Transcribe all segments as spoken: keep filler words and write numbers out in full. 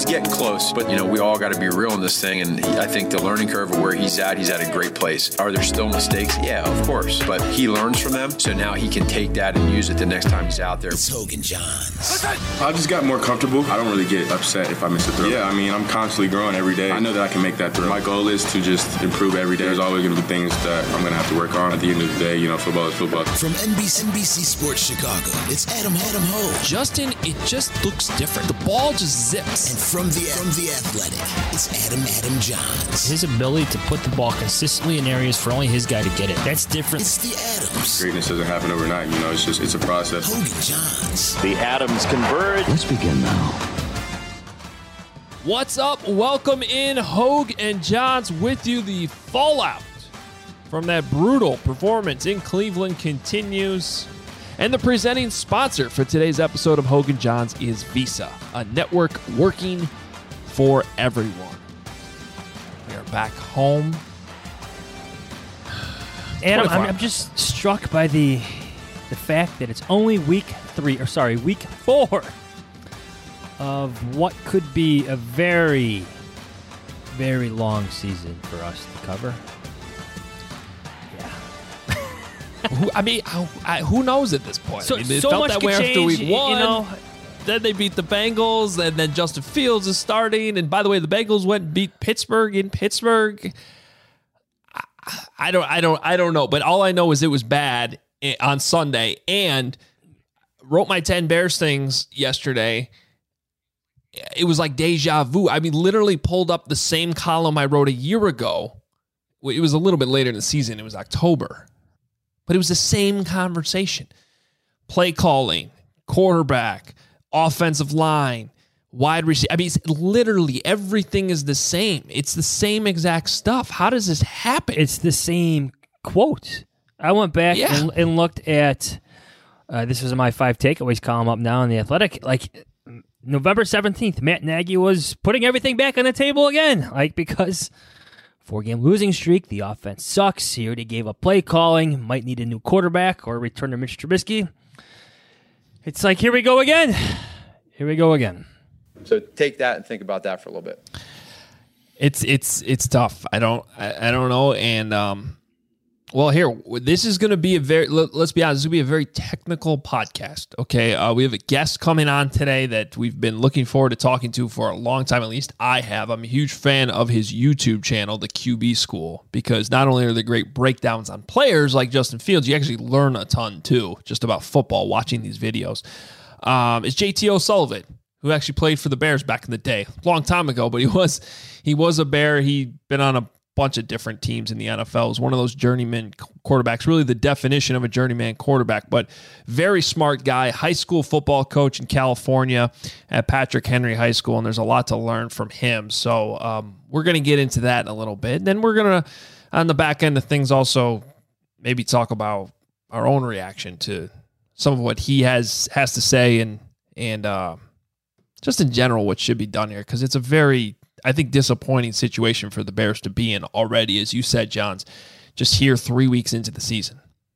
he's getting close. But, you know, we all got to be real in this thing. And he, I think the learning curve of where he's at, he's at a great place. Are there still mistakes? Yeah, of course. But he learns from them. So now he can take that and use it the next time he's out there. It's Hogan Johns. I just got more comfortable. I don't really get upset if I miss a throw. Yeah, I mean, I'm constantly growing every day. I know that I can make that throw. My goal is to just improve every day. There's always going to be things that I'm going to have to work on. At the end of the day, you know, football is football. From N B C, N B C Sports Chicago, it's Adam Adam Ho. Justin, it just looks different. The ball just zips. And from the from the Athletic, it's Adam Adam Johns. His ability to put the ball consistently in areas for only his guy to get it. That's different. It's the Adams. Greatness doesn't happen overnight. You know, it's just it's a process. Hogan Johns. The Adams converge. Let's begin now. What's up? Welcome in, Hogue and Johns with you. The fallout from that brutal performance in Cleveland continues. And the presenting sponsor for today's episode of Hogue and Johns is Visa, a network working for everyone. We are back home. Adam, I'm, I'm just struck by the the fact that it's only week three, or sorry, week four of what could be a very, very long season for us to cover. who, I mean, who, I, who knows at this point? So, I mean, it so felt much that could way change, after week one. You know, then they beat the Bengals, and then Justin Fields is starting. And by the way, the Bengals went and beat Pittsburgh in Pittsburgh. I, I don't, I don't, I don't know. But all I know is it was bad on Sunday. And wrote my ten Bears things yesterday. It was like deja vu. I mean, literally pulled up the same column I wrote a year ago. It was a little bit later in the season. It was October. But it was the same conversation. Play calling, quarterback, offensive line, wide receiver. I mean, it's literally everything is the same. It's the same exact stuff. How does this happen? It's the same quote. I went back Yeah. and, and looked at, uh, this was my five takeaways column up now in The Athletic, like November seventeenth, Matt Nagy was putting everything back on the table again, like because four-game losing streak, the offense sucks. He already gave up play calling, might need a new quarterback or return to Mitch Trubisky. It's like, here we go again. Here we go again. So take that and think about that for a little bit. It's it's it's tough. I don't I, I don't know. And um, well, here this is going to be a very let, let's be honest. This is going to be a very technical podcast. Okay, uh, we have a guest coming on today that we've been looking forward to talking to for a long time. At least I have. I'm a huge fan of his YouTube channel, the Q B School, because not only are there great breakdowns on players like Justin Fields, you actually learn a ton too, just about football watching these videos. Um, it's J T O'Sullivan, who actually played for the Bears back in the day, long time ago, but he was he was a Bear. He'd been on a bunch of different teams in the N F L. He was one of those journeyman quarterbacks, really the definition of a journeyman quarterback, but very smart guy, high school football coach in California at Patrick Henry High School, and there's a lot to learn from him. So um, we're going to get into that in a little bit. And then we're going to, on the back end of things, also maybe talk about our own reaction to some of what he has has to say and, and uh, just in general what should be done here, because it's a very, I think, disappointing situation for the Bears to be in already, as you said, Johns, just here three weeks into the season.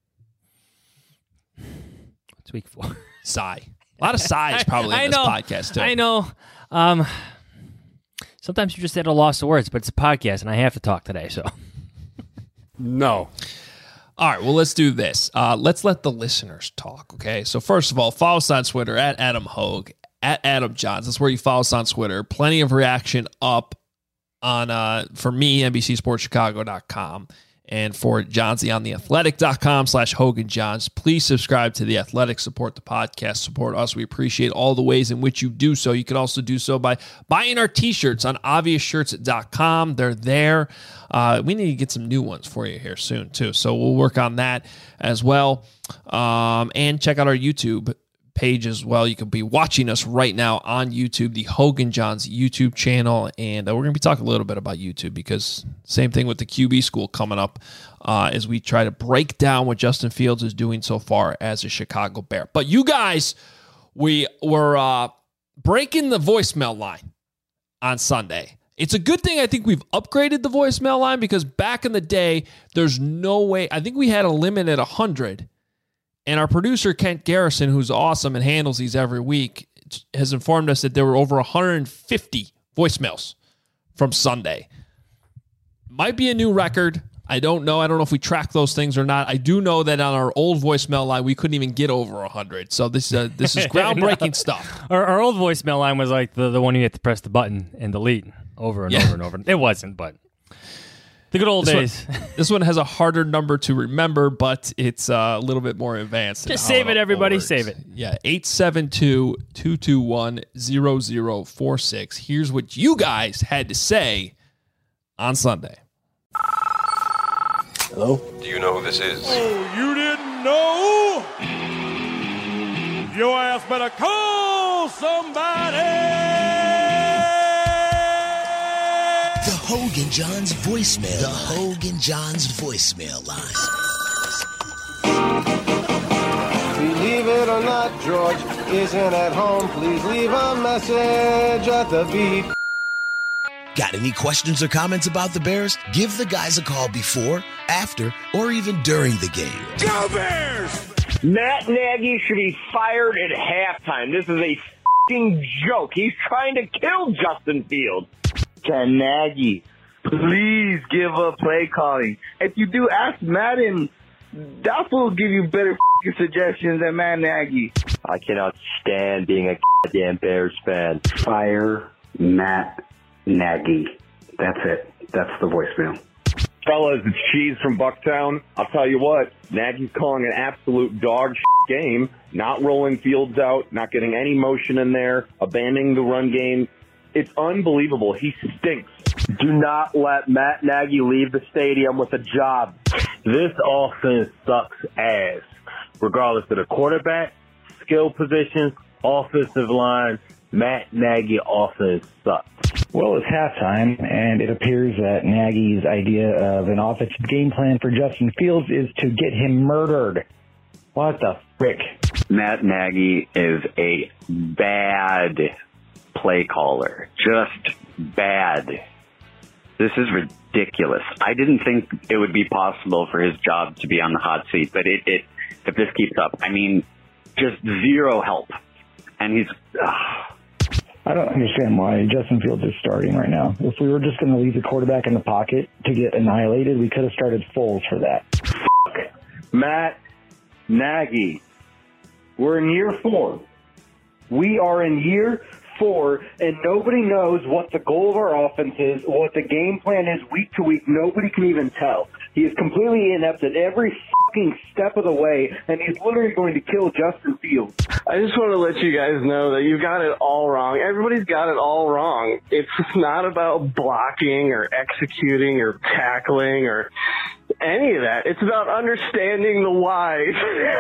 It's week four. Sigh. A lot of sighs probably in I this know, podcast, too. I know. Um, sometimes you're just at a loss of words, but it's a podcast, and I have to talk today, so. No. All right, well, let's do this. Uh, let's let the listeners talk, okay? So first of all, follow us on Twitter, at Adam Hogue, at Adam Johns. That's where you follow us on Twitter. Plenty of reaction up on, uh, for me, N B C Sports Chicago dot com. And for Johnsy on the athletic dot com slash Hogan Johns. Please subscribe to The Athletic, support the podcast, support us. We appreciate all the ways in which you do so. You can also do so by buying our t-shirts on obvious shirts dot com. They're there. Uh, we need to get some new ones for you here soon, too. So we'll work on that as well. Um, and check out our YouTube page as well. You can be watching us right now on YouTube, the Hogan Johns YouTube channel, and uh, we're going to be talking a little bit about YouTube because same thing with the Q B School coming up uh, as we try to break down what Justin Fields is doing so far as a Chicago Bear. But you guys, we were uh, breaking the voicemail line on Sunday. It's a good thing I think we've upgraded the voicemail line because back in the day, there's no way. I think we had a limit at one hundred. And our producer, Kent Garrison, who's awesome and handles these every week, has informed us that there were over one hundred fifty voicemails from Sunday. Might be a new record. I don't know. I don't know if we track those things or not. I do know that on our old voicemail line, we couldn't even get over one hundred. So this, uh, this is groundbreaking no. stuff. Our, our old voicemail line was like the, the one you had to press the button and delete over and yeah. over and over. It wasn't, but the good old this days. One, this one has a harder number to remember, but it's uh, a little bit more advanced. Just save it, everybody. Works. Save it. Yeah, eight seven two, two two one, zero zero four six. Here's what you guys had to say on Sunday. Hello? Do you know who this is? Oh, you didn't know? Your ass better call somebody! The Hogan Johns voicemail. The Hogan Johns voicemail line. Believe it or not, George isn't at home. Please leave a message at the beep. Got any questions or comments about the Bears? Give the guys a call before, after, or even during the game. Go Bears! Matt Nagy should be fired at halftime. This is a f***ing joke. He's trying to kill Justin Fields. Can Nagy please give up play calling? If you do, ask Madden. That will give you better f***ing suggestions than Matt Nagy. I cannot stand being a goddamn Bears fan. Fire Matt Nagy. That's it. That's the voicemail. Fellas, it's Cheese from Bucktown. I'll tell you what, Nagy's calling an absolute dog shit game, not rolling Fields out, not getting any motion in there, abandoning the run game. It's unbelievable. He stinks. Do not let Matt Nagy leave the stadium with a job. This offense sucks ass, regardless of the quarterback, skill positions, offensive line. Matt Nagy offense sucks. Well, it's halftime, and it appears that Nagy's idea of an offensive game plan for Justin Fields is to get him murdered. What the frick? Matt Nagy is a bad play caller. Just bad. This is ridiculous. I didn't think it would be possible for his job to be on the hot seat, but it, it if this keeps up, I mean, just zero help. And he's... Uh, I don't understand why Justin Fields is starting right now. If we were just going to leave the quarterback in the pocket to get annihilated, we could have started Foles for that. Fuck Matt Nagy. We're in year four. We are in year four, and nobody knows what the goal of our offense is, what the game plan is week to week. Nobody can even tell. He is completely inept at every fucking step of the way, and he's literally going to kill Justin Fields. I just want to let you guys know that you've got it all wrong. Everybody's got it all wrong. It's not about blocking or executing or tackling or any of that. It's about understanding the whys.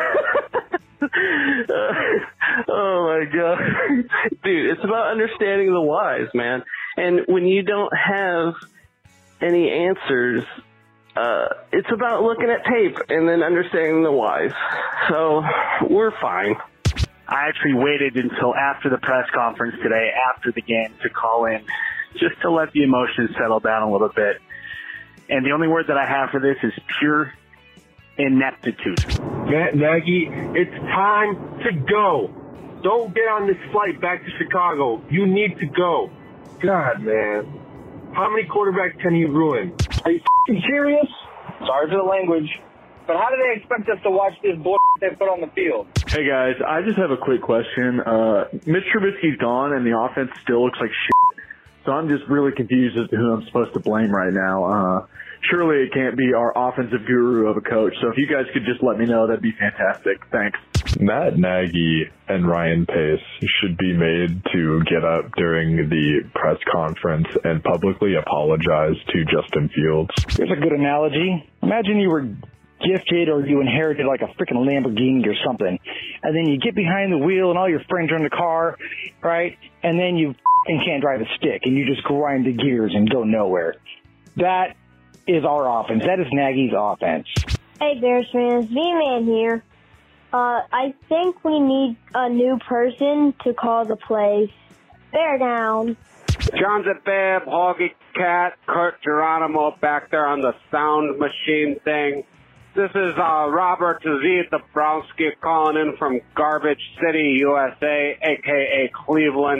uh, oh my God. Dude, it's about understanding the whys, man. And when you don't have any answers, uh, it's about looking at tape and then understanding the whys. So we're fine. I actually waited until after the press conference today, after the game, to call in just to let the emotions settle down a little bit. And the only word that I have for this is pure ineptitude. Matt Nagy, it's time to go. Don't get on this flight back to Chicago. You need to go. God, man. How many quarterbacks can he ruin? Are you f***ing serious? Sorry for the language. But how do they expect us to watch this bull they put on the field? Hey, guys, I just have a quick question. Uh, Mitch Trubisky's gone, and the offense still looks like shit. So I'm just really confused as to who I'm supposed to blame right now. Uh, surely it can't be our offensive guru of a coach. So if you guys could just let me know, that'd be fantastic. Thanks. Matt Nagy and Ryan Pace should be made to get up during the press conference and publicly apologize to Justin Fields. Here's a good analogy. Imagine you were gifted or you inherited like a freaking Lamborghini or something, and then you get behind the wheel and all your friends are in the car, right? And then you f***ing can't drive a stick and you just grind the gears and go nowhere. That is our offense. That is Nagy's offense. Hey, Bears fans, V-Man here. Uh, I think we need a new person to call the plays. Bear down. John's at Bab, Hoggy Cat, Kurt Geronimo back there on the sound machine thing. This is uh, Robert Z. Dabrowski calling in from Garbage City, U S A, a k a. Cleveland.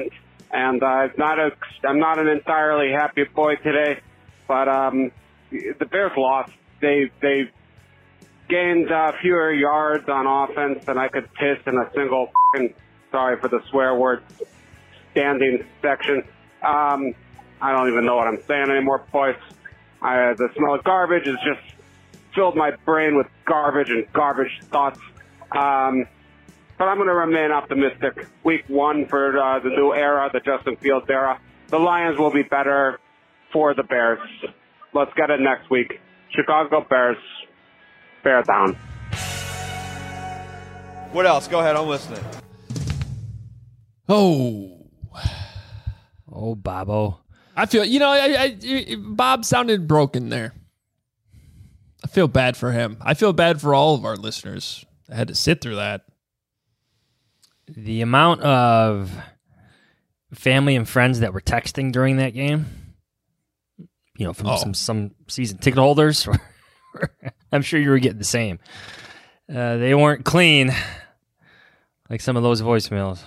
and uh, not a, I'm not an entirely happy boy today. But um, the Bears lost. They they gained uh, fewer yards on offense than I could piss in a single. Sorry for the swear word standing section. Um, I don't even know what I'm saying anymore, boys. I, the smell of garbage has just filled my brain with garbage and garbage thoughts. Um, but I'm going to remain optimistic. Week one for uh, the new era, the Justin Fields era. The Lions will be better for the Bears. Let's get it next week. Chicago Bears, bear down. What else? Go ahead, I'm listening. Oh. Oh, Bobo. I feel, you know, I, I, Bob sounded broken there. I feel bad for him. I feel bad for all of our listeners that had to sit through that. The amount of family and friends that were texting during that game, you know, from Oh. some, some season ticket holders, I'm sure you were getting the same. Uh, they weren't clean like some of those voicemails.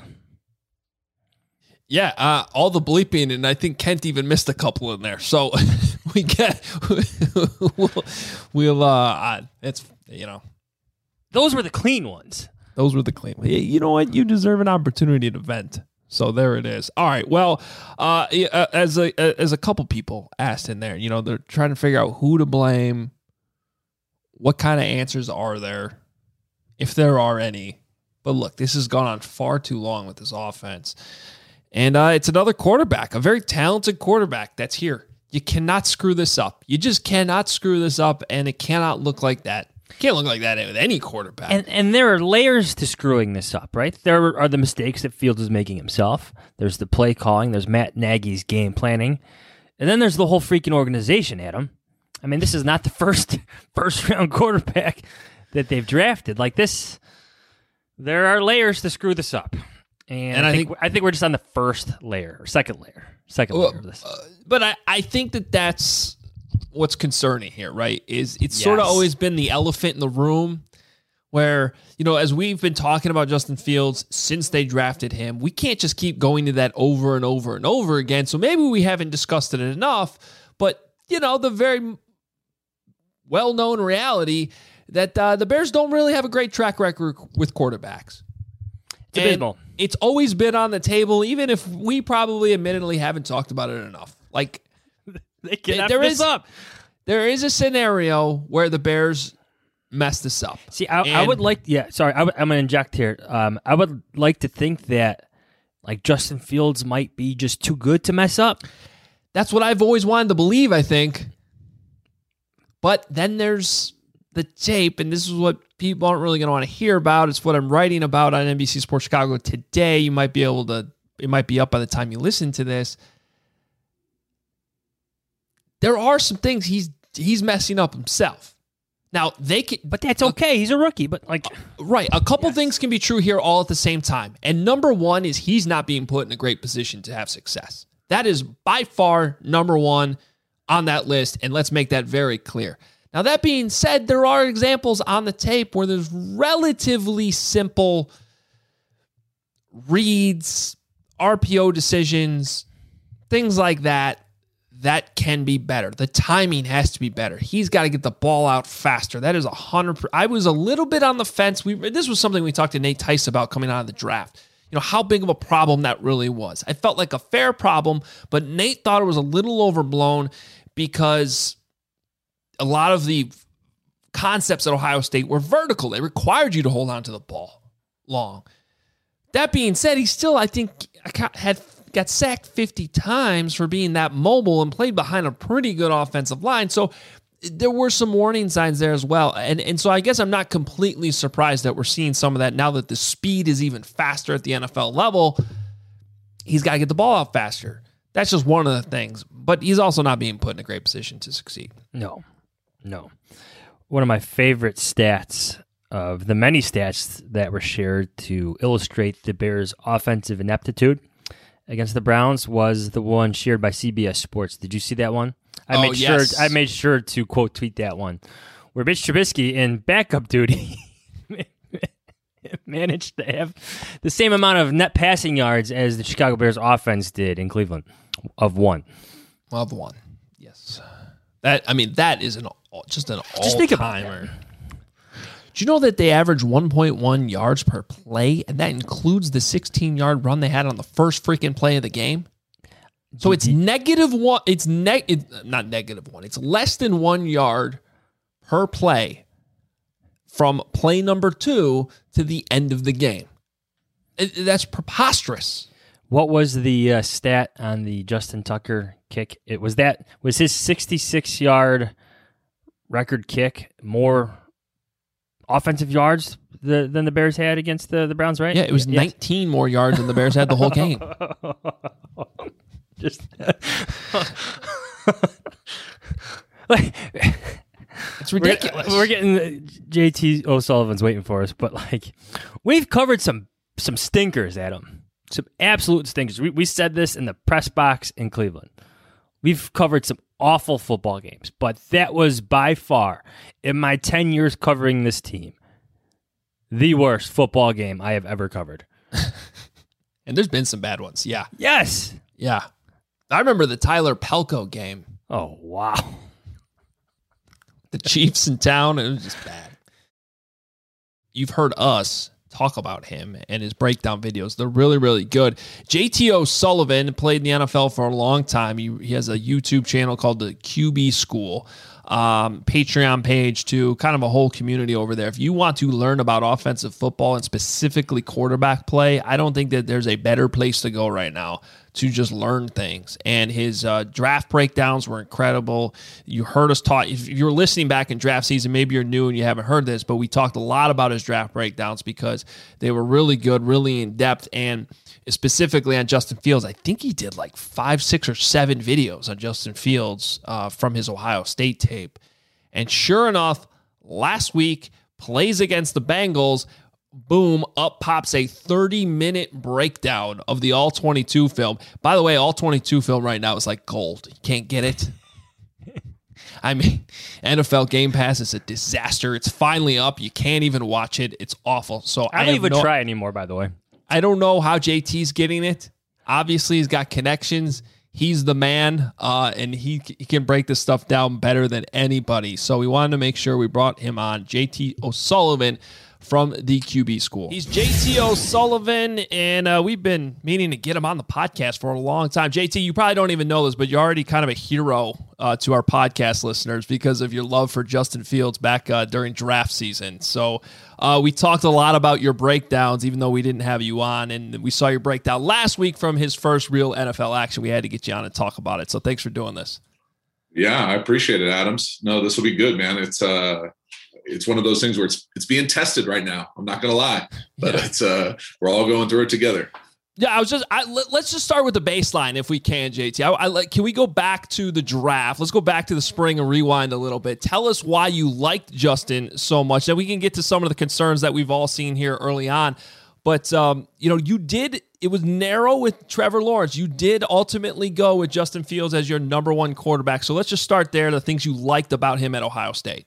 Yeah, uh, all the bleeping, and I think Kent even missed a couple in there. So we get, we'll, we'll uh, uh, it's, you know. Those were the clean ones. Those were the clean ones. You know what? You deserve an opportunity to vent. So there it is. All right. Well, uh, as a as a couple people asked in there, you know, they're trying to figure out who to blame. What kind of answers are there, if there are any? But look, this has gone on far too long with this offense. And uh, it's another quarterback, a very talented quarterback that's here. You cannot screw this up. You just cannot screw this up, and it cannot look like that. It can't look like that with any quarterback. And and there are layers to screwing this up, right? There are the mistakes that Fields is making himself. There's the play calling. There's Matt Nagy's game planning. And then there's the whole freaking organization, Adam. I mean, this is not the first first-round quarterback that they've drafted. Like this, there are layers to screw this up. And, And I, I think, think- I think we're just on the first layer, or second layer. Second Well, layer of this. uh, but I, I think that that's what's concerning here, right? Is it's sort of Yes. always been the elephant in the room where, you know, as we've been talking about Justin Fields since they drafted him, we can't just keep going to that over and over and over again. So maybe we haven't discussed it enough, but, you know, the very well-known reality that uh, the Bears don't really have a great track record with quarterbacks. It's And abysmal. It's always been on the table, even if we probably admittedly haven't talked about it enough. Like, They cannot there mess is up. there is a scenario where the Bears mess this up. See, I, I And- would like, yeah, sorry, I, would- I'm going to inject here. Um, I would like to think that, like, Justin Fields might be just too good to mess up. That's what I've always wanted to believe, I think. But then there's the tape, and this is what people aren't really going to want to hear about. It's what I'm writing about on N B C Sports Chicago today. You might be able to, it might be up by the time you listen to this. There are some things he's he's messing up himself. Now, they can, but that's okay. He's a rookie, but like, right. A couple things can be true here all at the same time. And number one is he's not being put in a great position to have success. That is by far number one on that list. And let's make that very clear. Now, that being said, there are examples on the tape where there's relatively simple reads, R P O decisions, things like that. That can be better. The timing has to be better. He's got to get the ball out faster. That is a hundred. I was a little bit on the fence. We this was something we talked to Nate Tice about coming out of the draft. You know how big of a problem that really was. I felt like a fair problem, but Nate thought it was a little overblown because a lot of the concepts at Ohio State were vertical. They required you to hold on to the ball long. That being said, he still, I think, had got sacked fifty times for being that mobile and played behind a pretty good offensive line. So there were some warning signs there as well. And, and so I guess I'm not completely surprised that we're seeing some of that now that the speed is even faster at the N F L level. He's got to get the ball out faster. That's just one of the things. But he's also not being put in a great position to succeed. No, no. One of my favorite stats of the many stats that were shared to illustrate the Bears' offensive ineptitude against the Browns was the one shared by C B S Sports. Did you see that one? I Oh, made yes. sure I made sure to quote tweet that one, where Mitch Trubisky in backup duty managed to have the same amount of net passing yards as the Chicago Bears offense did in Cleveland, of one. Of one, yes. That I mean, that is an just an Just think about all-timer. Do you know that they average one point one yards per play, and that includes the sixteen-yard run they had on the first freaking play of the game? So it's negative one. It's neg. It's not negative one. It's less than one yard per play from play number two to the end of the game. It, that's preposterous. What was the uh, stat on the Justin Tucker kick? It was that was his sixty-six yard record kick more offensive yards the, than the Bears had against the, the Browns, right? Yeah, it was yes. nineteen more yards than the Bears had the whole game. Just like it's ridiculous. We're, we're getting J T O'Sullivan's waiting for us, but like we've covered some some stinkers, Adam. Some absolute stinkers. We we said this in the press box in Cleveland. We've covered some awful football games, but that was by far, in my ten years covering this team, the worst football game I have ever covered. And there's been some bad ones, yeah. Yes. Yeah. I remember the Tyler Pelco game. Oh, wow. The Chiefs in town, it was just bad. You've heard us talk about him and his breakdown videos. They're really, really good. J T O'Sullivan played in the N F L for a long time. He, he has a YouTube channel called the Q B School. Um, Patreon page too, kind of a whole community over there. If you want to learn about offensive football and specifically quarterback play, I don't think that there's a better place to go right now to just learn things. And his uh, draft breakdowns were incredible. You heard us talk. If you're listening back in draft season, maybe you're new and you haven't heard this, but we talked a lot about his draft breakdowns because they were really good, really in depth, and specifically on Justin Fields. I think he did like five, six, or seven videos on Justin Fields uh, from his Ohio State tape. And sure enough, last week, plays against the Bengals, boom, up pops a thirty-minute breakdown of the all twenty-two film. By the way, all twenty-two film right now is like gold. You can't get it. I mean, N F L Game Pass is a disaster. It's finally up. You can't even watch it. It's awful. So I don't I even no, try anymore, by the way. I don't know how J T's getting it. Obviously, he's got connections. He's the man, uh, and he, he can break this stuff down better than anybody. So we wanted to make sure we brought him on. J T O'Sullivan from the Q B School. He's J T O'Sullivan, and uh, we've been meaning to get him on the podcast for a long time. J T, you probably don't even know this, but you're already kind of a hero uh, to our podcast listeners because of your love for Justin Fields back uh, during draft season. So uh, we talked a lot about your breakdowns, even though we didn't have you on, and we saw your breakdown last week from his first real N F L action. We had to get you on and talk about it. So thanks for doing this. Yeah, I appreciate it, Adams. No, this will be good, man. It's uh, it's one of those things where it's it's being tested right now. I'm not gonna lie, but yeah. it's uh, we're all going through it together. Yeah, I was just. I, let, let's just start with the baseline, if we can, J T. I, I like. Can we go back to the draft? Let's go back to the spring and rewind a little bit. Tell us why you liked Justin so much. Then we can get to some of the concerns that we've all seen here early on. But um, you know, you did. It was narrow with Trevor Lawrence. You did ultimately go with Justin Fields as your number one quarterback. So let's just start there. The things you liked about him at Ohio State.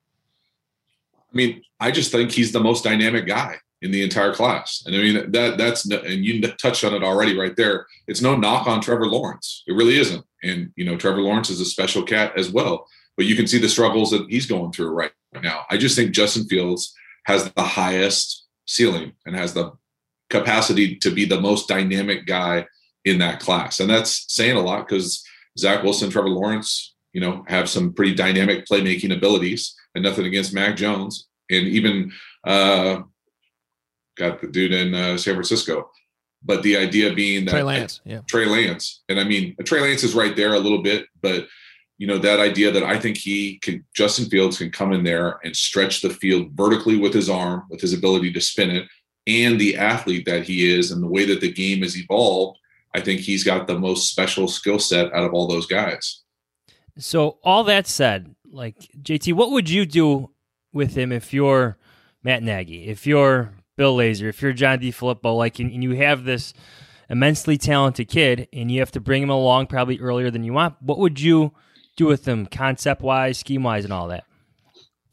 I mean, I just think he's the most dynamic guy in the entire class. And I mean, that that's, and you touched on it already right there. It's no knock on Trevor Lawrence. It really isn't. And, you know, Trevor Lawrence is a special cat as well, but you can see the struggles that he's going through right now. I just think Justin Fields has the highest ceiling and has the capacity to be the most dynamic guy in that class. And that's saying a lot because Zach Wilson, Trevor Lawrence, you know, have some pretty dynamic playmaking abilities, and nothing against Mac Jones. And even, uh, got the dude in uh, San Francisco, but the idea being that Trey Lance, yeah, Trey Lance, and I mean Trey Lance is right there a little bit, but you know that idea that I think he can, Justin Fields can come in there and stretch the field vertically with his arm, with his ability to spin it, and the athlete that he is, and the way that the game has evolved. I think he's got the most special skill set out of all those guys. So all that said, like J T, what would you do with him if you're Matt Nagy, if you're Bill Lazor, if you're John DeFilippo, like, and, and you have this immensely talented kid and you have to bring him along probably earlier than you want, what would you do with him concept-wise, scheme-wise, and all that?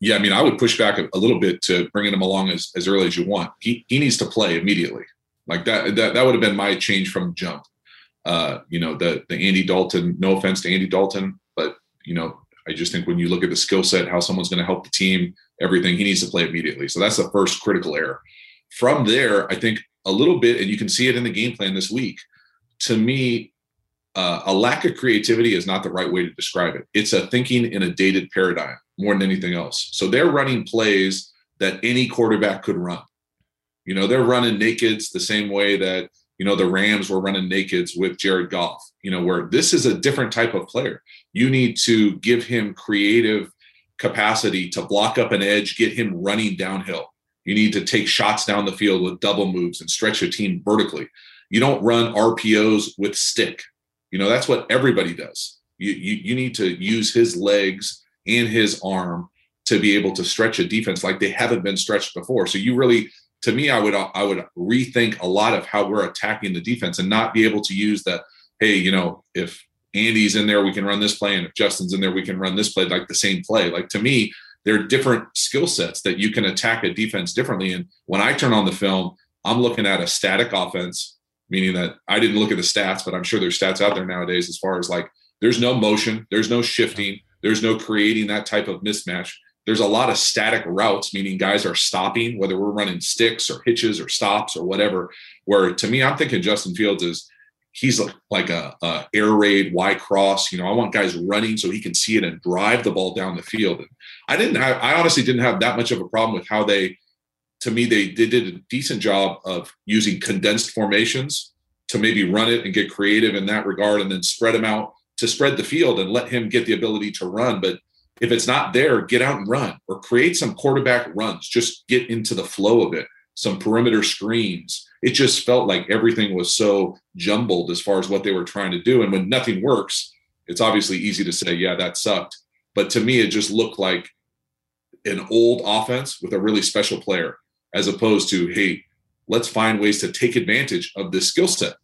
Yeah, I mean, I would push back a, a little bit to bringing him along as, as early as you want. He he needs to play immediately. Like that, that, that would have been my change from jump. Uh, you know, the the Andy Dalton, no offense to Andy Dalton, but, you know, I just think when you look at the skill set, how someone's going to help the team, everything, he needs to play immediately. So that's the first critical error. From there, I think a little bit, and you can see it in the game plan this week, to me, uh, a lack of creativity is not the right way to describe it. It's a thinking in a dated paradigm more than anything else. So they're running plays that any quarterback could run. You know, they're running nakeds the same way that, you know, the Rams were running nakeds with Jared Goff, you know, where this is a different type of player. You need to give him creative capacity to block up an edge, get him running downhill. You need to take shots down the field with double moves and stretch your team vertically. You don't run R P Os with stick. You know, that's what everybody does. You, you, you need to use his legs and his arm to be able to stretch a defense like they haven't been stretched before. So you really, to me, I would I would rethink a lot of how we're attacking the defense and not be able to use that, hey, you know, if Andy's in there, we can run this play, and if Justin's in there, we can run this play, like the same play. Like, to me, there are different skill sets that you can attack a defense differently. And when I turn on the film, I'm looking at a static offense, meaning that I didn't look at the stats, but I'm sure there's stats out there nowadays as far as like there's no motion, there's no shifting, there's no creating that type of mismatch. There's a lot of static routes, meaning guys are stopping, whether we're running sticks or hitches or stops or whatever, where to me, I'm thinking Justin Fields is he's like a, a air raid, Y cross. You know, I want guys running so he can see it and drive the ball down the field. And I didn't have, I honestly didn't have that much of a problem with how they, to me, they, they did a decent job of using condensed formations to maybe run it and get creative in that regard, and then spread him out to spread the field and let him get the ability to run. But if it's not there, get out and run, or create some quarterback runs. Just get into the flow of it, some perimeter screens. It just felt like everything was so jumbled as far as what they were trying to do. And when nothing works, it's obviously easy to say, yeah, that sucked. But to me, it just looked like an old offense with a really special player, as opposed to, hey, let's find ways to take advantage of this skill set.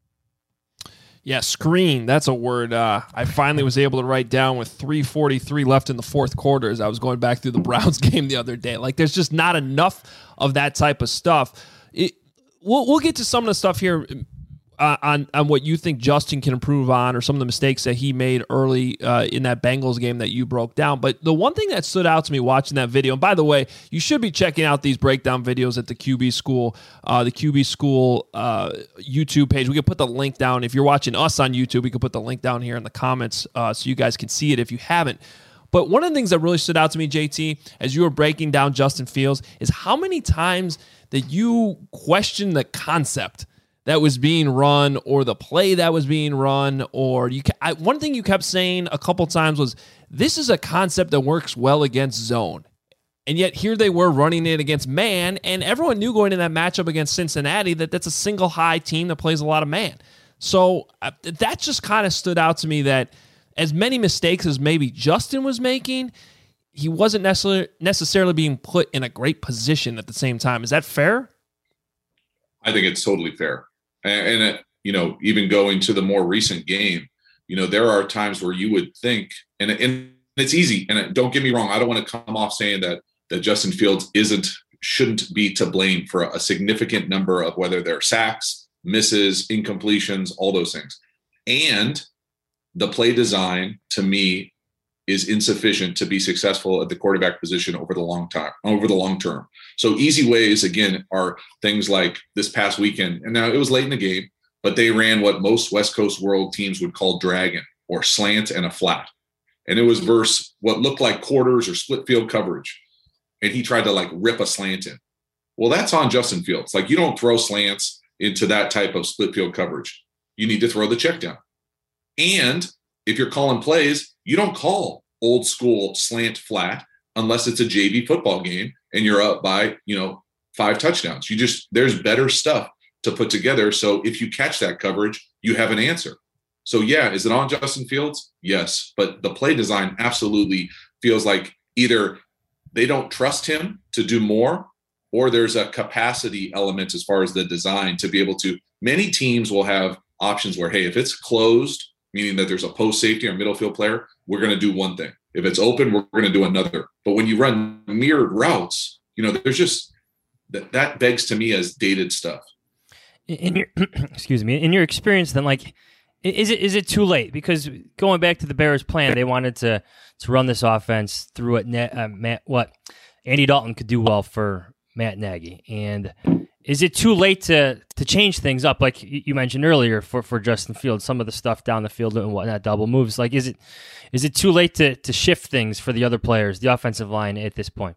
Yeah, screen. That's a word uh, I finally was able to write down with three forty-three left in the fourth quarter as I was going back through the Browns game the other day. Like, there's just not enough of that type of stuff. It, we'll, we'll get to some of the stuff here uh, on, on what you think Justin can improve on, or some of the mistakes that he made early uh, in that Bengals game that you broke down. But the one thing that stood out to me watching that video, and by the way, you should be checking out these breakdown videos at the Q B School, uh, the Q B School uh, YouTube page. We can put the link down. If you're watching us on YouTube, we can put the link down here in the comments uh, so you guys can see it if you haven't. But one of the things that really stood out to me, J T, as you were breaking down Justin Fields, is how many times that you question the concept that was being run, or the play that was being run, or you. I, one thing you kept saying a couple times was, this is a concept that works well against zone. And yet here they were running it against man, and everyone knew going in that matchup against Cincinnati that that's a single high team that plays a lot of man. So uh, that just kind of stood out to me, that as many mistakes as maybe Justin was making, he wasn't necessarily necessarily being put in a great position at the same time. Is that fair? I think it's totally fair. And, and it, you know, even going to the more recent game, you know, there are times where you would think, and, and it's easy, and don't get me wrong, I don't want to come off saying that that Justin Fields isn't, shouldn't be to blame for a significant number of, whether they're sacks, misses, incompletions, all those things. And the play design, to me, is insufficient to be successful at the quarterback position over the long time, over the long term. So easy ways, again, are things like this past weekend. And now it was late in the game, but they ran what most West Coast world teams would call dragon, or slant and a flat. And it was versus what looked like quarters or split field coverage. And he tried to like rip a slant in. Well, that's on Justin Fields. Like, you don't throw slants into that type of split field coverage. You need to throw the check down. And if you're calling plays, you don't call old school slant flat unless it's a J V football game and you're up by, you know, five touchdowns. You just, there's better stuff to put together. So if you catch that coverage, you have an answer. So yeah, is it on Justin Fields? Yes. But the play design absolutely feels like either they don't trust him to do more, or there's a capacity element as far as the design to be able to, many teams will have options where, hey, if it's closed meaning that there's a post safety or middle field player, we're going to do one thing. If it's open, we're going to do another. But when you run mirrored routes, you know, there's just that, that begs to me as dated stuff. In your excuse me, in your experience, then, like, is it is it too late? Because going back to the Bears' plan, they wanted to to run this offense through what uh, Matt, what Andy Dalton could do well for Matt Nagy. And is it too late to to change things up, like you mentioned earlier, for, for Justin Fields, some of the stuff down the field and whatnot, double moves? Like, is it is it too late to to shift things for the other players, the offensive line, at this point?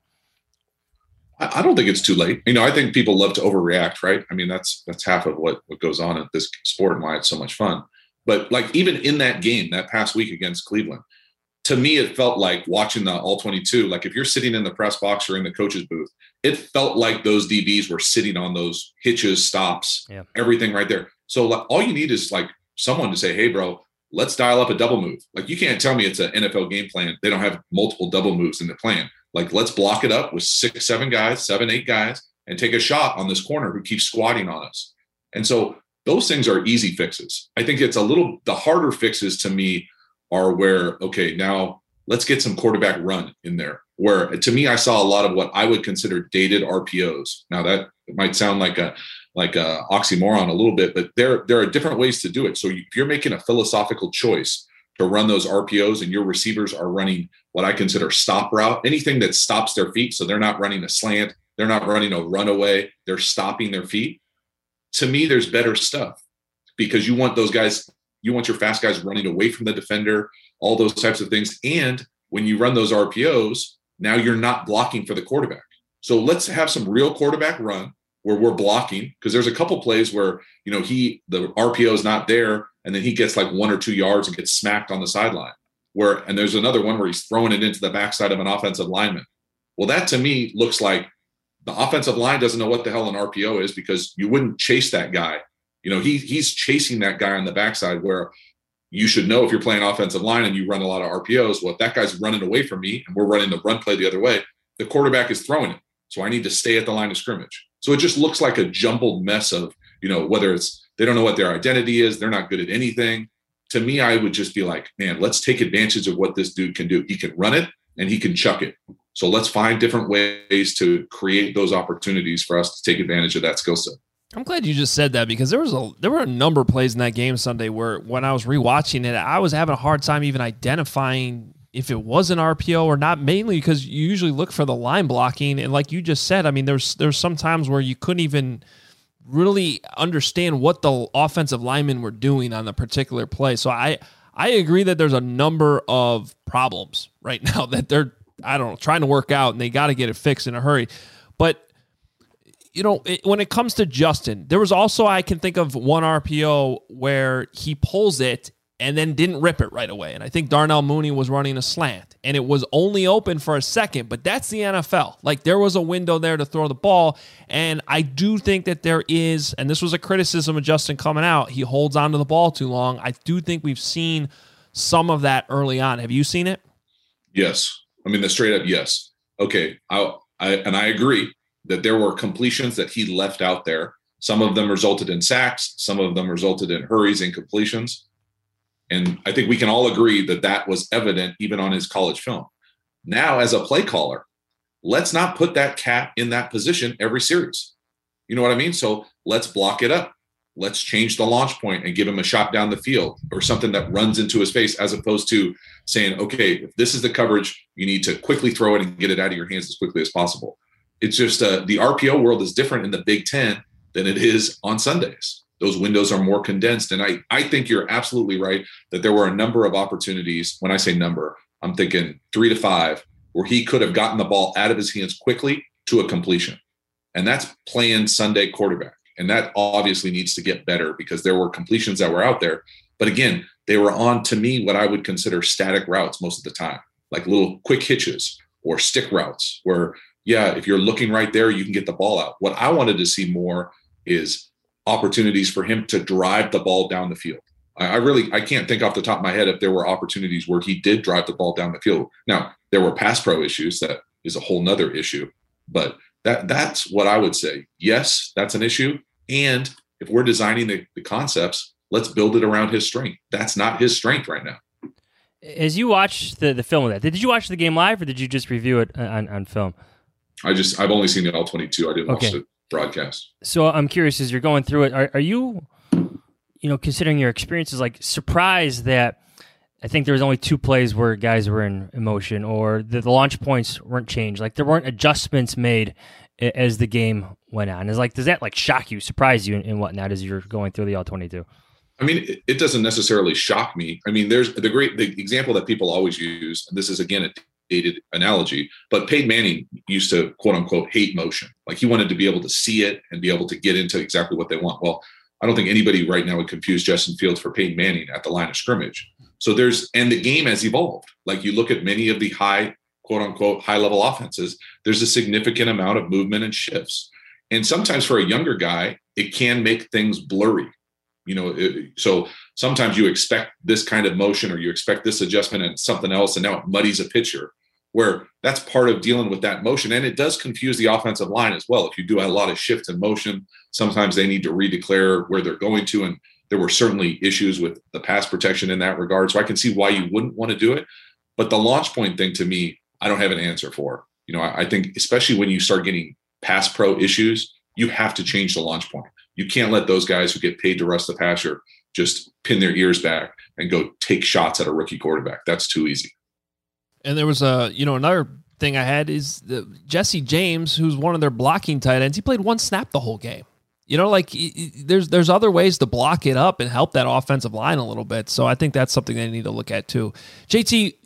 I don't think it's too late. You know, I think people love to overreact, right? I mean, that's that's half of what, what goes on in this sport and why it's so much fun. But like even in that game, that past week against Cleveland, to me, it felt like watching the all twenty-two, like if you're sitting in the press box or in the coach's booth, it felt like those D Bs were sitting on those hitches, stops, yeah. everything right there. So like, all you need is like someone to say, hey, bro, let's dial up a double move. Like you can't tell me it's an N F L game plan. They don't have multiple double moves in the plan. Like, let's block it up with six, seven guys, seven, eight guys, and take a shot on this corner who keeps squatting on us. And so those things are easy fixes. I think it's a little, the harder fixes to me are where, okay, now let's get some quarterback run in there. Where to me, I saw a lot of what I would consider dated R P Os. Now that might sound like a like a oxymoron a little bit, but there, there are different ways to do it. So if you're making a philosophical choice to run those R P Os and your receivers are running what I consider stop route, anything that stops their feet. So they're not running a slant. They're not running a runaway. They're stopping their feet. To me, there's better stuff because you want those guys, you want your fast guys running away from the defender, all those types of things. And when you run those R P Os, now you're not blocking for the quarterback. So let's have some real quarterback run where we're blocking, because there's a couple plays where, you know, he, the R P O is not there. And then he gets like one or two yards and gets smacked on the sideline. Where, and there's another one where he's throwing it into the backside of an offensive lineman. Well, that to me looks like the offensive line doesn't know what the hell an R P O is, because you wouldn't chase that guy. You know, he he's chasing that guy on the backside, where you should know if you're playing offensive line and you run a lot of R P Os, well, if that guy's running away from me and we're running the run play the other way, the quarterback is throwing it. So I need to stay at the line of scrimmage. So it just looks like a jumbled mess of, you know, whether it's they don't know what their identity is, they're not good at anything. To me, I would just be like, man, let's take advantage of what this dude can do. He can run it and he can chuck it. So let's find different ways to create those opportunities for us to take advantage of that skill set. I'm glad you just said that, because there was a there were a number of plays in that game Sunday where when I was rewatching it, I was having a hard time even identifying if it was an R P O or not, mainly because you usually look for the line blocking. And like you just said, I mean, there's there's some times where you couldn't even really understand what the offensive linemen were doing on the particular play. So I I agree that there's a number of problems right now that they're, I don't know, trying to work out, and they got to get it fixed in a hurry. But you know, it, when it comes to Justin, there was also, I can think of one R P O where he pulls it and then didn't rip it right away. And I think Darnell Mooney was running a slant, and it was only open for a second, but that's the N F L. Like, there was a window there to throw the ball, and I do think that there is, and this was a criticism of Justin coming out, he holds onto the ball too long. I do think we've seen some of that early on. Have you seen it? Yes. I mean, the straight up yes. Okay, I, I and I agree that there were completions that he left out there. Some of them resulted in sacks. Some of them resulted in hurries and completions. And I think we can all agree that that was evident even on his college film. Now, as a play caller, let's not put that cat in that position every series. You know what I mean? So let's block it up. Let's change the launch point and give him a shot down the field or something that runs into his face, as opposed to saying, okay, if this is the coverage, you need to quickly throw it and get it out of your hands as quickly as possible. It's just uh, the R P O world is different in the Big Ten than it is on Sundays. Those windows are more condensed. And I, I think you're absolutely right that there were a number of opportunities. When I say number, I'm thinking three to five, where he could have gotten the ball out of his hands quickly to a completion. And that's playing Sunday quarterback. And that obviously needs to get better, because there were completions that were out there. But again, they were on, to me, what I would consider static routes most of the time, like little quick hitches or stick routes where, yeah, if you're looking right there, you can get the ball out. What I wanted to see more is opportunities for him to drive the ball down the field. I, I really, I can't think off the top of my head if there were opportunities where he did drive the ball down the field. Now, there were pass pro issues. That is a whole nother issue, but that that's what I would say. Yes, that's an issue. And if we're designing the, the concepts, let's build it around his strength. That's not his strength right now. As you watched the, the film of that, did you watch the game live or did you just review it on, on film? I just, I've only seen the all twenty-two. I didn't Okay. watch the broadcast. So I'm curious, as you're going through it, are, are you, you know, considering your experiences, like surprised that I think there was only two plays where guys were in emotion, or the, the launch points weren't changed, like there weren't adjustments made a- as the game went on? Is like, does that like shock you, surprise you, and, and whatnot as you're going through the all twenty-two? I mean, it, it doesn't necessarily shock me. I mean, there's the great the example that people always use, and this is again a dated analogy, but Peyton Manning used to quote unquote hate motion. Like he wanted to be able to see it and be able to get into exactly what they want. Well, I don't think anybody right now would confuse Justin Fields for Peyton Manning at the line of scrimmage. So there's, and the game has evolved. Like you look at many of the high, quote unquote, high level offenses, there's a significant amount of movement and shifts. And sometimes for a younger guy, it can make things blurry. You know, it, so sometimes you expect this kind of motion or you expect this adjustment and something else, and now it muddies a picture, where that's part of dealing with that motion. And it does confuse the offensive line as well. If you do a lot of shift in motion, sometimes they need to redeclare where they're going to. And there were certainly issues with the pass protection in that regard. So I can see why you wouldn't want to do it. But the launch point thing, to me, I don't have an answer for. You know, I, I think especially when you start getting pass pro issues, you have to change the launch point. You can't let those guys who get paid to rush the passer just pin their ears back and go take shots at a rookie quarterback. That's too easy. And there was a, you know, another thing I had is the, Jesse James, who's one of their blocking tight ends. He played one snap the whole game. You know, like there's there's other ways to block it up and help that offensive line a little bit. So I think that's something they need to look at too. J T,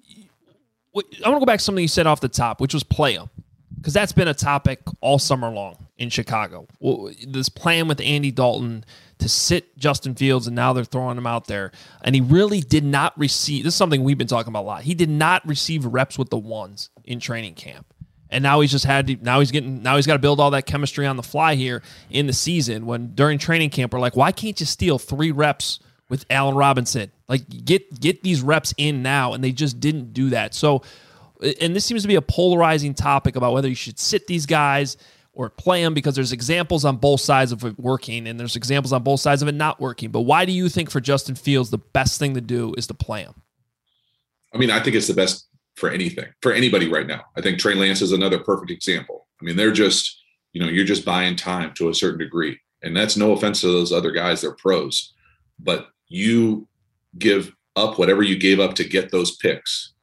I want to go back to something you said off the top, which was play them, because that's been a topic all summer long in Chicago. This plan with Andy Dalton to sit Justin Fields, and now they're throwing him out there. And he really did not receive, this is something we've been talking about a lot, he did not receive reps with the ones in training camp. And now he's just had to, now he's getting, now he's got to build all that chemistry on the fly here in the season, when during training camp, we're like, why can't you steal three reps with Allen Robinson? Like get, get these reps in now. And they just didn't do that. So, and this seems to be a polarizing topic about whether you should sit these guys or play them, because there's examples on both sides of it working and there's examples on both sides of it not working. But why do you think for Justin Fields, the best thing to do is to play him? I mean, I think it's the best for anything, for anybody right now. I think Trey Lance is another perfect example. I mean, they're just, you know, you're just buying time to a certain degree. And that's no offense to those other guys. They're pros. But you give up whatever you gave up to get those picks.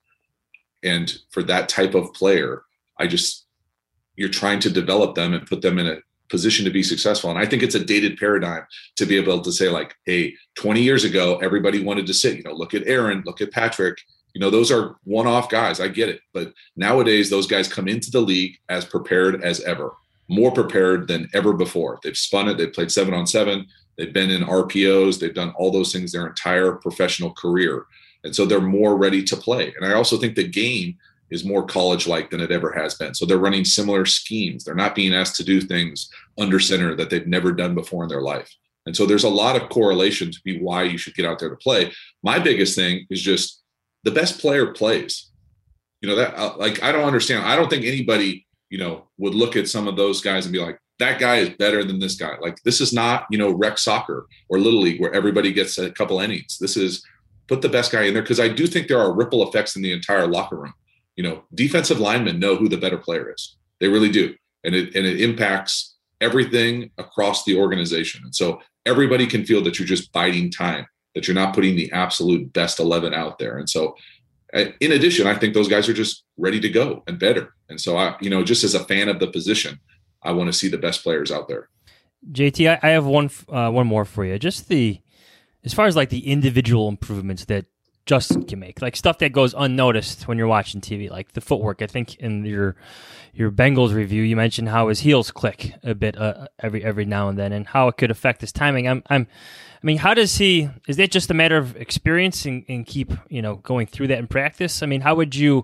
And for that type of player, I just, you're trying to develop them and put them in a position to be successful. And I think it's a dated paradigm to be able to say like, hey, twenty years ago, everybody wanted to sit, you know, look at Aaron, look at Patrick. You know, those are one-off guys. I get it. But nowadays, those guys come into the league as prepared as ever, more prepared than ever before. They've spun it. They've played seven on seven. They've been in R P Os. They've done all those things their entire professional career. And so they're more ready to play. And I also think the game is more college-like than it ever has been. So they're running similar schemes. They're not being asked to do things under center that they've never done before in their life. And so there's a lot of correlation to be why you should get out there to play. My biggest thing is just the best player plays. You know, that uh, like, I don't understand. I don't think anybody, you know, would look at some of those guys and be like, that guy is better than this guy. Like, this is not, you know, rec soccer or Little League where everybody gets a couple innings. This is put the best guy in there, because I do think there are ripple effects in the entire locker room. You know, defensive linemen know who the better player is. They really do. And it and it impacts everything across the organization. And so everybody can feel that you're just biding time, that you're not putting the absolute best eleven out there. And so in addition, I think those guys are just ready to go and better. And so, I, you know, just as a fan of the position, I want to see the best players out there. J T, I, I have one uh, one more for you. Just the, as far as like the individual improvements that Justin can make, like stuff that goes unnoticed when you're watching T V, like the footwork. I think in your your Bengals review, you mentioned how his heels click a bit uh, every every now and then, and how it could affect his timing. I'm, I'm, I mean, how does he? Is that just a matter of experience and, and keep you know going through that in practice? I mean, how would you?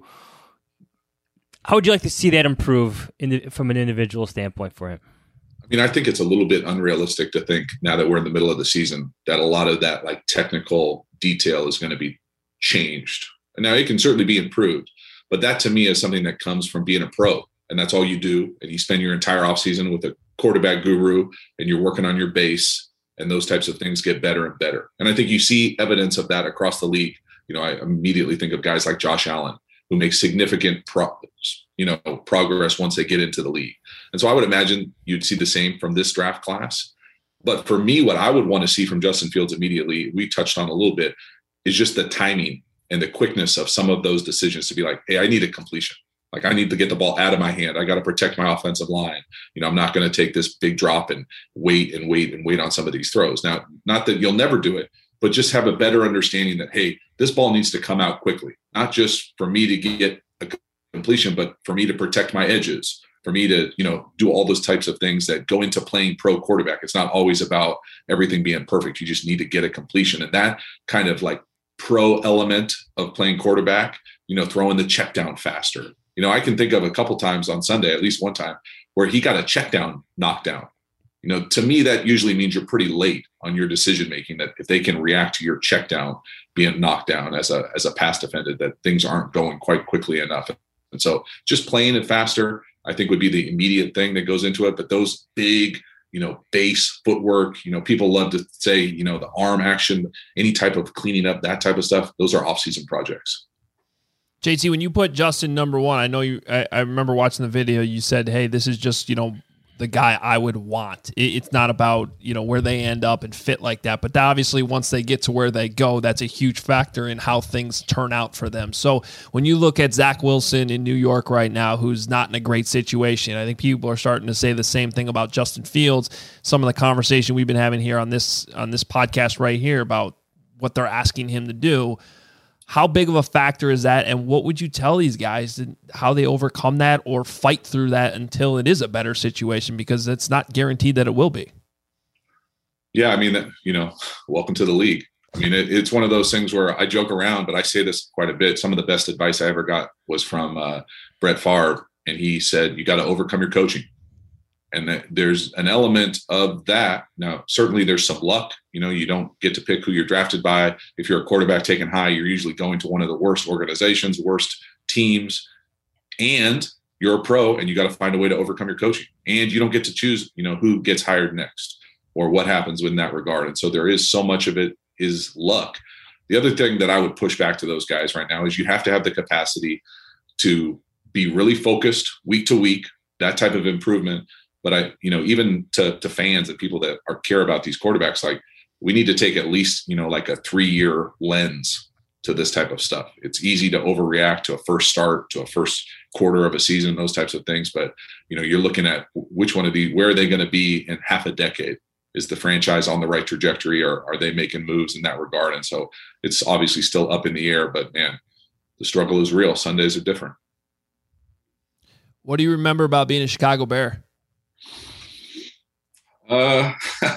How would you like to see that improve in the, from an individual standpoint for him? I mean, I think it's a little bit unrealistic to think now that we're in the middle of the season that a lot of that like technical detail is going to be changed. And now it can certainly be improved, but that to me is something that comes from being a pro, and that's all you do. And you spend your entire offseason with a quarterback guru and you're working on your base. and those types of things get better and better. And I think you see evidence of that across the league. You know, I immediately think of guys like Josh Allen, who make significant pro- you know, progress once they get into the league. And so I would imagine you'd see the same from this draft class. But for me, what I would want to see from Justin Fields immediately, we touched on a little bit, is just the timing and the quickness of some of those decisions to be like, hey, I need a completion. Like, I need to get the ball out of my hand. I got to protect my offensive line. You know, I'm not going to take this big drop and wait and wait and wait on some of these throws. Now, not that you'll never do it, but just have a better understanding that, hey, this ball needs to come out quickly, not just for me to get a completion, but for me to protect my edges, for me to, you know, do all those types of things that go into playing pro quarterback. It's not always about everything being perfect. You just need to get a completion. And that kind of like pro element of playing quarterback, you know, throwing the check down faster. You know, I can think of a couple times on Sunday, at least one time, where he got a check down knocked down. You know, to me, that usually means you're pretty late on your decision making, that if they can react to your check down being knocked down as a as a pass defender, that things aren't going quite quickly enough. And so just playing it faster, I think, would be the immediate thing that goes into it. But those big, you know, base footwork, you know, people love to say, you know, the arm action, any type of cleaning up, that type of stuff, those are off-season projects. J T, when you put Justin number one, I know you, I, I remember watching the video, you said, hey, this is just, you know, the guy I would want. It, it's not about, you know, where they end up and fit like that. But obviously once they get to where they go, that's a huge factor in how things turn out for them. So when you look at Zach Wilson in New York right now, who's not in a great situation, I think people are starting to say the same thing about Justin Fields. Some of the conversation we've been having here on this, on this podcast right here about what they're asking him to do. How big of a factor is that, and what would you tell these guys and how they overcome that or fight through that until it is a better situation, because it's not guaranteed that it will be? Yeah, I mean, you know, welcome to the league. I mean, it, it's one of those things where I joke around, but I say this quite a bit. Some of the best advice I ever got was from uh, Brett Favre, and he said, you got to overcome your coaching. And that there's an element of that. Now, certainly there's some luck. You know, you don't get to pick who you're drafted by. If you're a quarterback taken high, you're usually going to one of the worst organizations, worst teams, and you're a pro, and you got to find a way to overcome your coaching. And you don't get to choose, you know, who gets hired next or what happens in that regard. And so there is so much of it is luck. The other thing that I would push back to those guys right now is you have to have the capacity to be really focused week to week, that type of improvement. But I, you know, even to, to fans and people that are care about these quarterbacks, like, we need to take at least, you know, like a three-year lens to this type of stuff. It's easy to overreact to a first start, to a first quarter of a season, those types of things. But, you know, you're looking at which one of these, where are they going to be in half a decade? Is the franchise on the right trajectory, or are they making moves in that regard? And so it's obviously still up in the air, but man, the struggle is real. Sundays are different. What do you remember about being a Chicago Bear? Uh,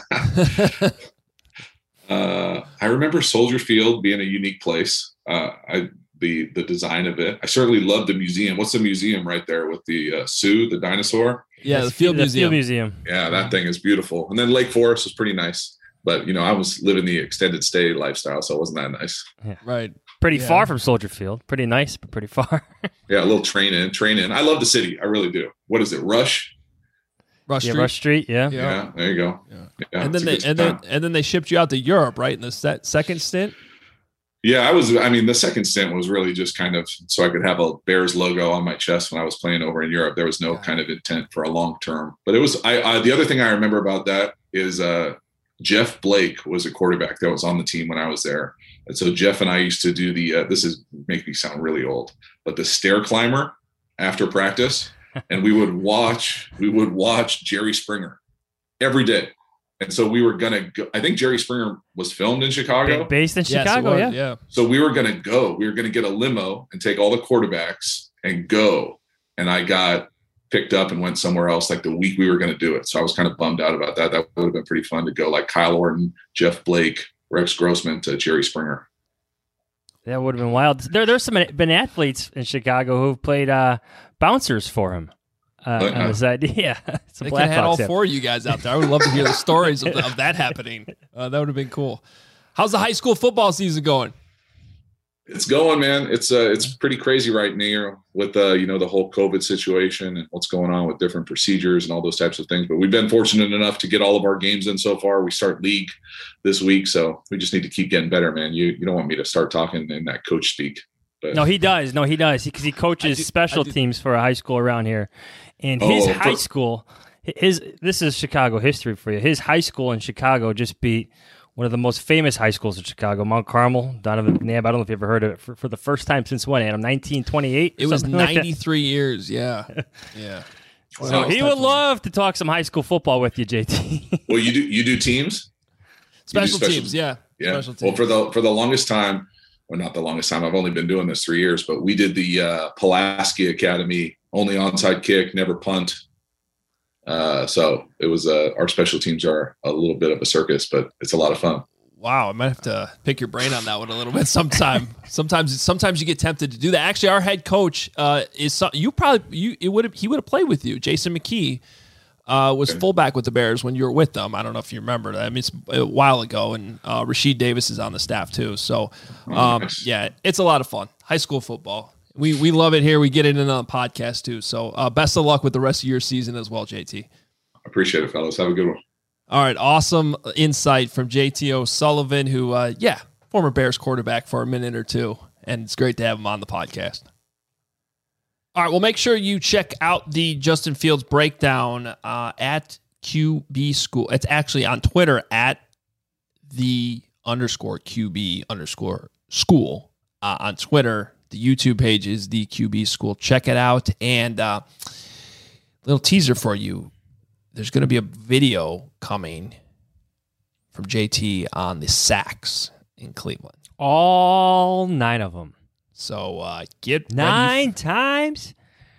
uh, I remember Soldier Field being a unique place. Uh, I the the design of it. I certainly love the museum. What's the museum right there with the uh, Sue, the dinosaur? Yeah, the Field the Museum. Field Museum. Yeah, that thing is beautiful. And then Lake Forest was pretty nice. But, you know, I was living the extended stay lifestyle, so it wasn't that nice. Yeah. Right. Pretty Yeah. far from Soldier Field. Pretty nice, but pretty far. Yeah, a little train in, train in. I love the city. I really do. What is it, Rush? Rush yeah, Street. Rush Street, yeah. Yeah, yeah there you go. Yeah. Yeah, and then they it's a and good then time. and then they shipped you out to Europe, right? In the set, second stint. Yeah, I was, I mean, the second stint was really just kind of so I could have a Bears logo on my chest when I was playing over in Europe. There was no kind of intent for a long term. But it was, I, I the other thing I remember about that is uh, Jeff Blake was a quarterback that was on the team when I was there. And so Jeff and I used to do the, uh, this is make me sound really old, but the stair climber after practice. And we would watch, we would watch Jerry Springer every day. And so we were going to go, I think Jerry Springer was filmed in Chicago. Based in Yes, it Chicago, was, yeah. yeah. So we were going to go, we were going to get a limo and take all the quarterbacks and go. And I got picked up and went somewhere else like the week we were going to do it. So I was kind of bummed out about that. That would have been pretty fun to go like Kyle Orton, Jeff Blake, Rex Grossman to Jerry Springer. That would have been wild. There, there's some been athletes in Chicago who've played uh, bouncers for him. Uh, Oh, yeah. on this idea. It's a They could have had all Blackhawks app. four of you guys out there. I would love to hear the stories of, of that happening. Uh, that would have been cool. How's the high school football season going? It's going, man. It's uh, it's pretty crazy right now with uh, you know, the whole COVID situation and what's going on with different procedures and all those types of things. But we've been fortunate enough to get all of our games in so far. We start league this week, so we just need to keep getting better, man. You you don't want me to start talking in that coach speak. But no, he does. No, he does because he, he coaches do, special teams for a high school around here, and his oh, high for- school, his this is Chicago history for you. His high school in Chicago just beat one of the most famous high schools in Chicago, Mount Carmel. Donovan McNabb, I don't know if you ever heard of it, for, for the first time since when, Adam? nineteen twenty-eight? It was ninety-three like years, yeah. Yeah. Well, so he would love to talk some high school football with you, J T. Well, you do you do teams? Special, do special teams, yeah. Yeah. Special teams. Well, for the for the longest time, well, not the longest time, I've only been doing this three years, but we did the uh, Pulaski Academy, only onside kick, never punt. Uh, so it was uh, our special teams are a little bit of a circus, but it's a lot of fun. Wow, I might have to pick your brain on that one a little bit sometime. sometimes, sometimes you get tempted to do that. Actually, our head coach uh, is some, you probably you it would he would have played with you. Jason McKee uh, was okay. fullback with the Bears when you were with them. I don't know if you remember that. I mean, it's a while ago, and uh, Rasheed Davis is on the staff too. So, um, nice. yeah, it's a lot of fun. High school football. We we love it here. We get it in on the podcast too. So uh, best of luck with the rest of your season as well, J T. Appreciate it, fellas. Have a good one. All right, awesome insight from J T O'Sullivan, who, uh, yeah, former Bears quarterback for a minute or two, and it's great to have him on the podcast. All right, well, make sure you check out the Justin Fields breakdown uh, at Q B School. It's actually on Twitter at the underscore Q B underscore school uh, on Twitter. The YouTube page is the Q B School. Check it out. And uh, little teaser for you. There's going to be a video coming from J T on the sacks in Cleveland. All nine of them. So uh, get nine ready for, times.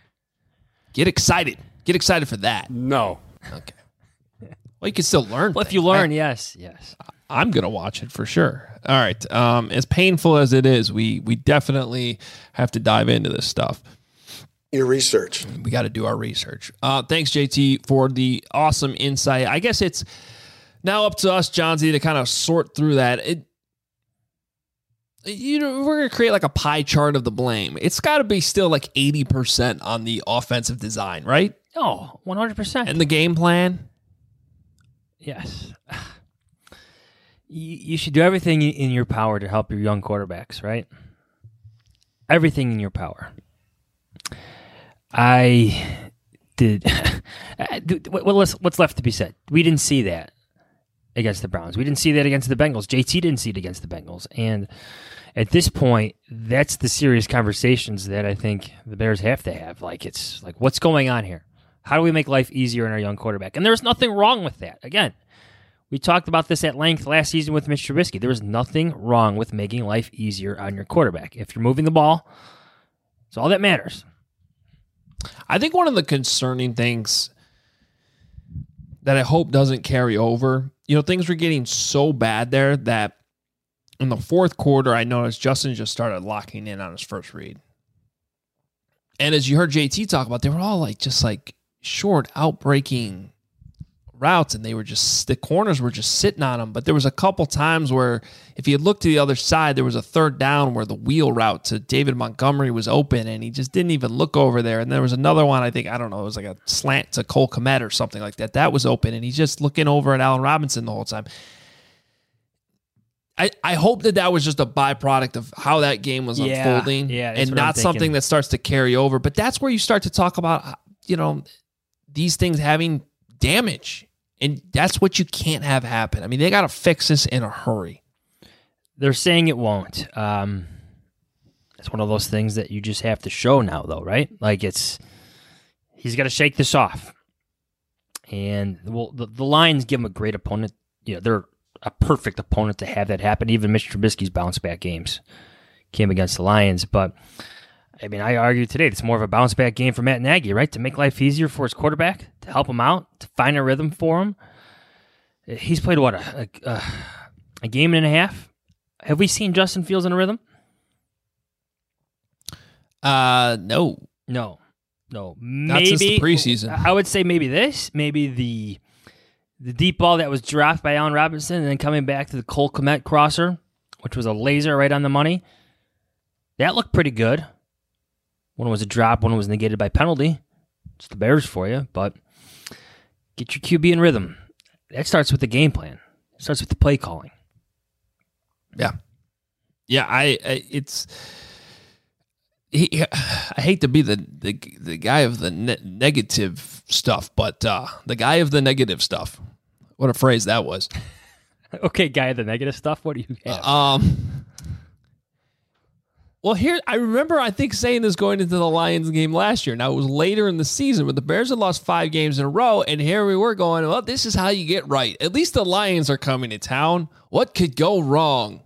Get excited. Get excited for that. No. Okay. Well, you can still learn. Well, things. if you learn, I, yes, yes. I'm going to watch it for sure. All right. Um, as painful as it is, we we definitely have to dive into this stuff. Your research. We got to do our research. Uh, thanks, J T, for the awesome insight. I guess it's now up to us, Johnsy, to kind of sort through that. It, you know, we're going to create like a pie chart of the blame. It's got to be still like eighty percent on the offensive design, right? Oh, one hundred percent. And the game plan? Yes. You, you should do everything in your power to help your young quarterbacks, right? Everything in your power. I did. Well, what's left to be said? We didn't see that against the Browns. We didn't see that against the Bengals. J T didn't see it against the Bengals. And at this point, that's the serious conversations that I think the Bears have to have. Like, it's like, what's going on here? How do we make life easier on our young quarterback? And there's nothing wrong with that. Again, we talked about this at length last season with Mitch Trubisky. There was nothing wrong with making life easier on your quarterback. If you're moving the ball, it's all that matters. I think one of the concerning things that I hope doesn't carry over, you know, things were getting so bad there that in the fourth quarter, I noticed Justin just started locking in on his first read. And as you heard J T talk about, they were all like just like short, outbreaking routes, and they were just, the corners were just sitting on them. But there was a couple times where if you looked to the other side, there was a third down where the wheel route to David Montgomery was open, and he just didn't even look over there. And there was another one, I think, I don't know, it was like a slant to Cole Kmet or something like that. That was open, and he's just looking over at Allen Robinson the whole time. I, I hope that that was just a byproduct of how that game was yeah, unfolding yeah, and not something that starts to carry over. But that's where you start to talk about, you know, these things having damage. And that's what you can't have happen. I mean, they got to fix this in a hurry. They're saying it won't. Um, it's one of those things that you just have to show now, though, right? Like, it's, he's got to shake this off. And well, the, the Lions give him a great opponent. You know, they're a perfect opponent to have that happen. Even Mitch Trubisky's bounce back games came against the Lions. But, I mean, I argue today it's more of a bounce back game for Matt Nagy, right? To make life easier for his quarterback, to help him out, to find a rhythm for him. He's played, what, a, a, a game and a half? Have we seen Justin Fields in a rhythm? Uh, no. No. No. Not maybe, since the preseason. I would say maybe this, maybe the the deep ball that was dropped by Allen Robinson and then coming back to the Cole Kmet crosser, which was a laser right on the money. That looked pretty good. One was a drop, one was negated by penalty. It's the Bears for you, but get your Q B in rhythm. That starts with the game plan. It starts with the play calling. Yeah. Yeah, I, I it's he, I hate to be the the, the guy of the ne- negative stuff, but uh, the guy of the negative stuff. What a phrase that was. Okay, guy of the negative stuff. What do you have? Uh, um Well, here, I remember, I think, saying this going into the Lions game last year. Now, it was later in the season, but the Bears had lost five games in a row, and here we were going, well, this is how you get right. At least the Lions are coming to town. What could go wrong?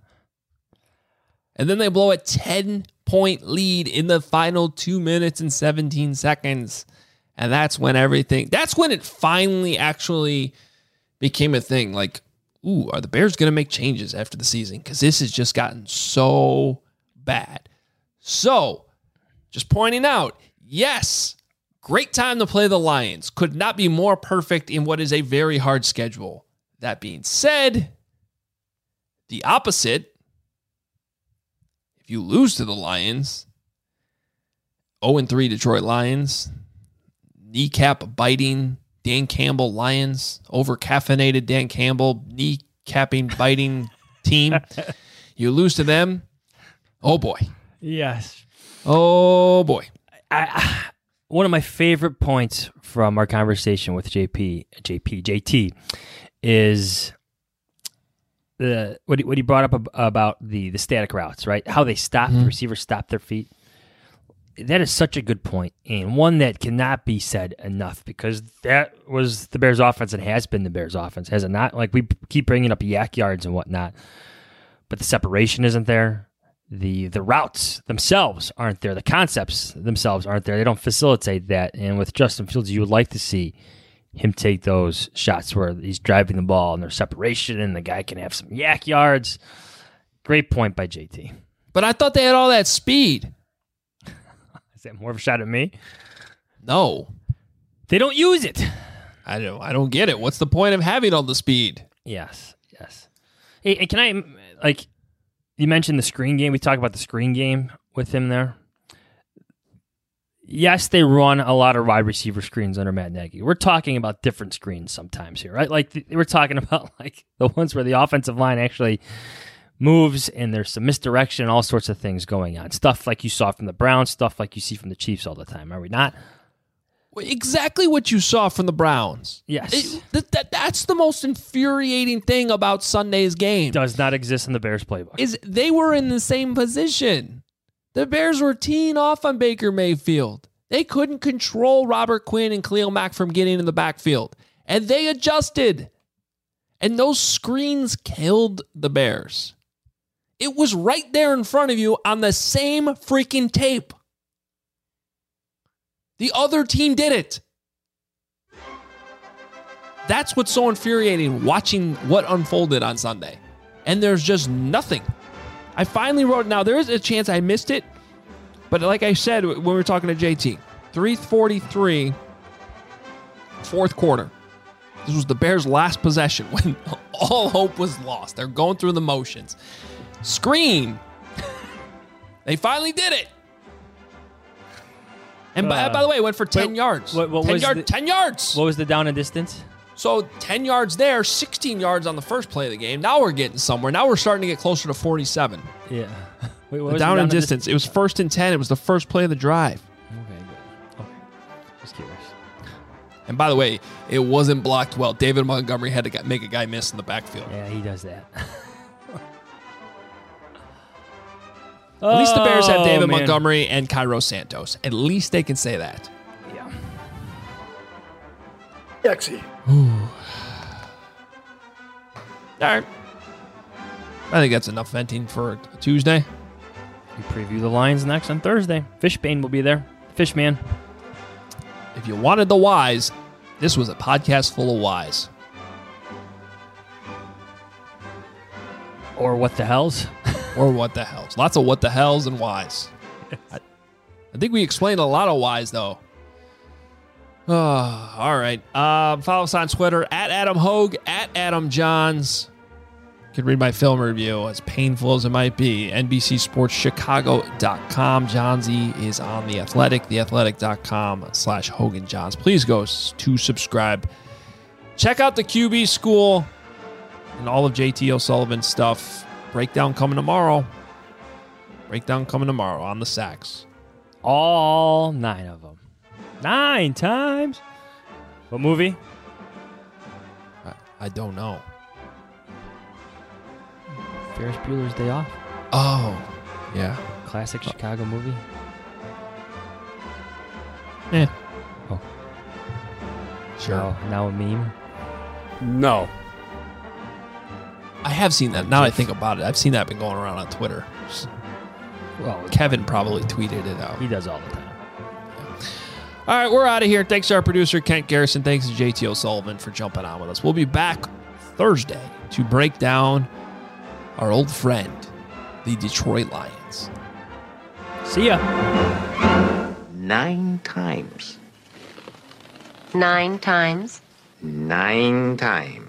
And then they blow a ten-point lead in the final two minutes and seventeen seconds. And that's when everything, that's when it finally actually became a thing. Like, ooh, are the Bears going to make changes after the season? Because this has just gotten so bad. So, just pointing out, yes, great time to play the Lions. Could not be more perfect in what is a very hard schedule. That being said, the opposite, if you lose to the Lions, oh and three Detroit Lions, kneecap biting Dan Campbell Lions, over caffeinated Dan Campbell, kneecapping biting team, you lose to them. Oh, boy. Yes. Oh, boy. I, I, one of my favorite points from our conversation with J P, J P, J T is the what he, what he brought up ab- about the, the static routes, right? How they stop, mm-hmm. the receivers stop their feet. That is such a good point, and one that cannot be said enough, because that was the Bears' offense and has been the Bears' offense, has it not? Like, we keep bringing up yak yards and whatnot, but the separation isn't there. The the routes themselves aren't there. The concepts themselves aren't there. They don't facilitate that. And with Justin Fields, you would like to see him take those shots where he's driving the ball and there's separation and the guy can have some yak yards. Great point by J T. But I thought they had all that speed. Is that more of a shot at me? No. They don't use it. I don't I don't get it. What's the point of having all the speed? Yes, yes. Hey, and can I, like, you mentioned the screen game. We talked about the screen game with him there. Yes, they run a lot of wide receiver screens under Matt Nagy. We're talking about different screens sometimes here, right? Like, the, we're talking about like the ones where the offensive line actually moves and there's some misdirection, all sorts of things going on. Stuff like you saw from the Browns, stuff like you see from the Chiefs all the time. Are we not? Exactly what you saw from the Browns. Yes. It, that, that, that's the most infuriating thing about Sunday's game. Does not exist in the Bears playbook. Is they were in the same position. The Bears were teeing off on Baker Mayfield. They couldn't control Robert Quinn and Khalil Mack from getting in the backfield. And they adjusted. And those screens killed the Bears. It was right there in front of you on the same freaking tape. The other team did it. That's what's so infuriating, watching what unfolded on Sunday. And there's just nothing. I finally wrote, now there is a chance I missed it, but like I said when we were talking to J T, three forty-three, fourth quarter. This was the Bears' last possession when all hope was lost. They're going through the motions. Screen. They finally did it. And by, uh, by the way, it went for ten wait, yards. What, what ten, was yard, the, ten yards. What was the down and distance? So ten yards there, sixteen yards on the first play of the game. Now we're getting somewhere. Now we're starting to get closer to forty-seven. Yeah. Wait, what the was down the and down distance. It was first and ten. It was the first play of the drive. Okay, good. Okay. Just curious. And by the way, it wasn't blocked well. David Montgomery had to make a guy miss in the backfield. Yeah, he does that. At least the Bears have David oh, man. Montgomery and Cairo Santos. At least they can say that. Yeah. Yexy. All right. I think that's enough venting for a Tuesday. We preview the Lions next on Thursday. Fishbane will be there. Fishman. If you wanted the whys, this was a podcast full of whys. Or what the hells. Or what the hells. Lots of what the hells and whys. I, I think we explained a lot of whys, though. Oh, all right. Um, follow us on Twitter, at Adam Hogue, at Adam Johns. You can read my film review, as painful as it might be. N B C Sports Chicago dot com. John Z is on The Athletic, the athletic dot com slash Hogan Johns. Please go to subscribe. Check out the Q B School and all of J T O'Sullivan's stuff. Breakdown coming tomorrow. Breakdown coming tomorrow on the sacks. All nine of them. Nine times. What movie? I, I don't know. Ferris Bueller's Day Off. Oh, yeah. Classic Chicago movie. Yeah. Oh. Sure. Now, now a meme. No. I have seen that. Now I think about it, I've seen that been going around on Twitter. Well, Kevin probably tweeted it out. He does all the time. All right, we're out of here. Thanks to our producer, Kent Garrison. Thanks to J T O'Sullivan for jumping on with us. We'll be back Thursday to break down our old friend, the Detroit Lions. See ya. Nine times. Nine times. Nine times.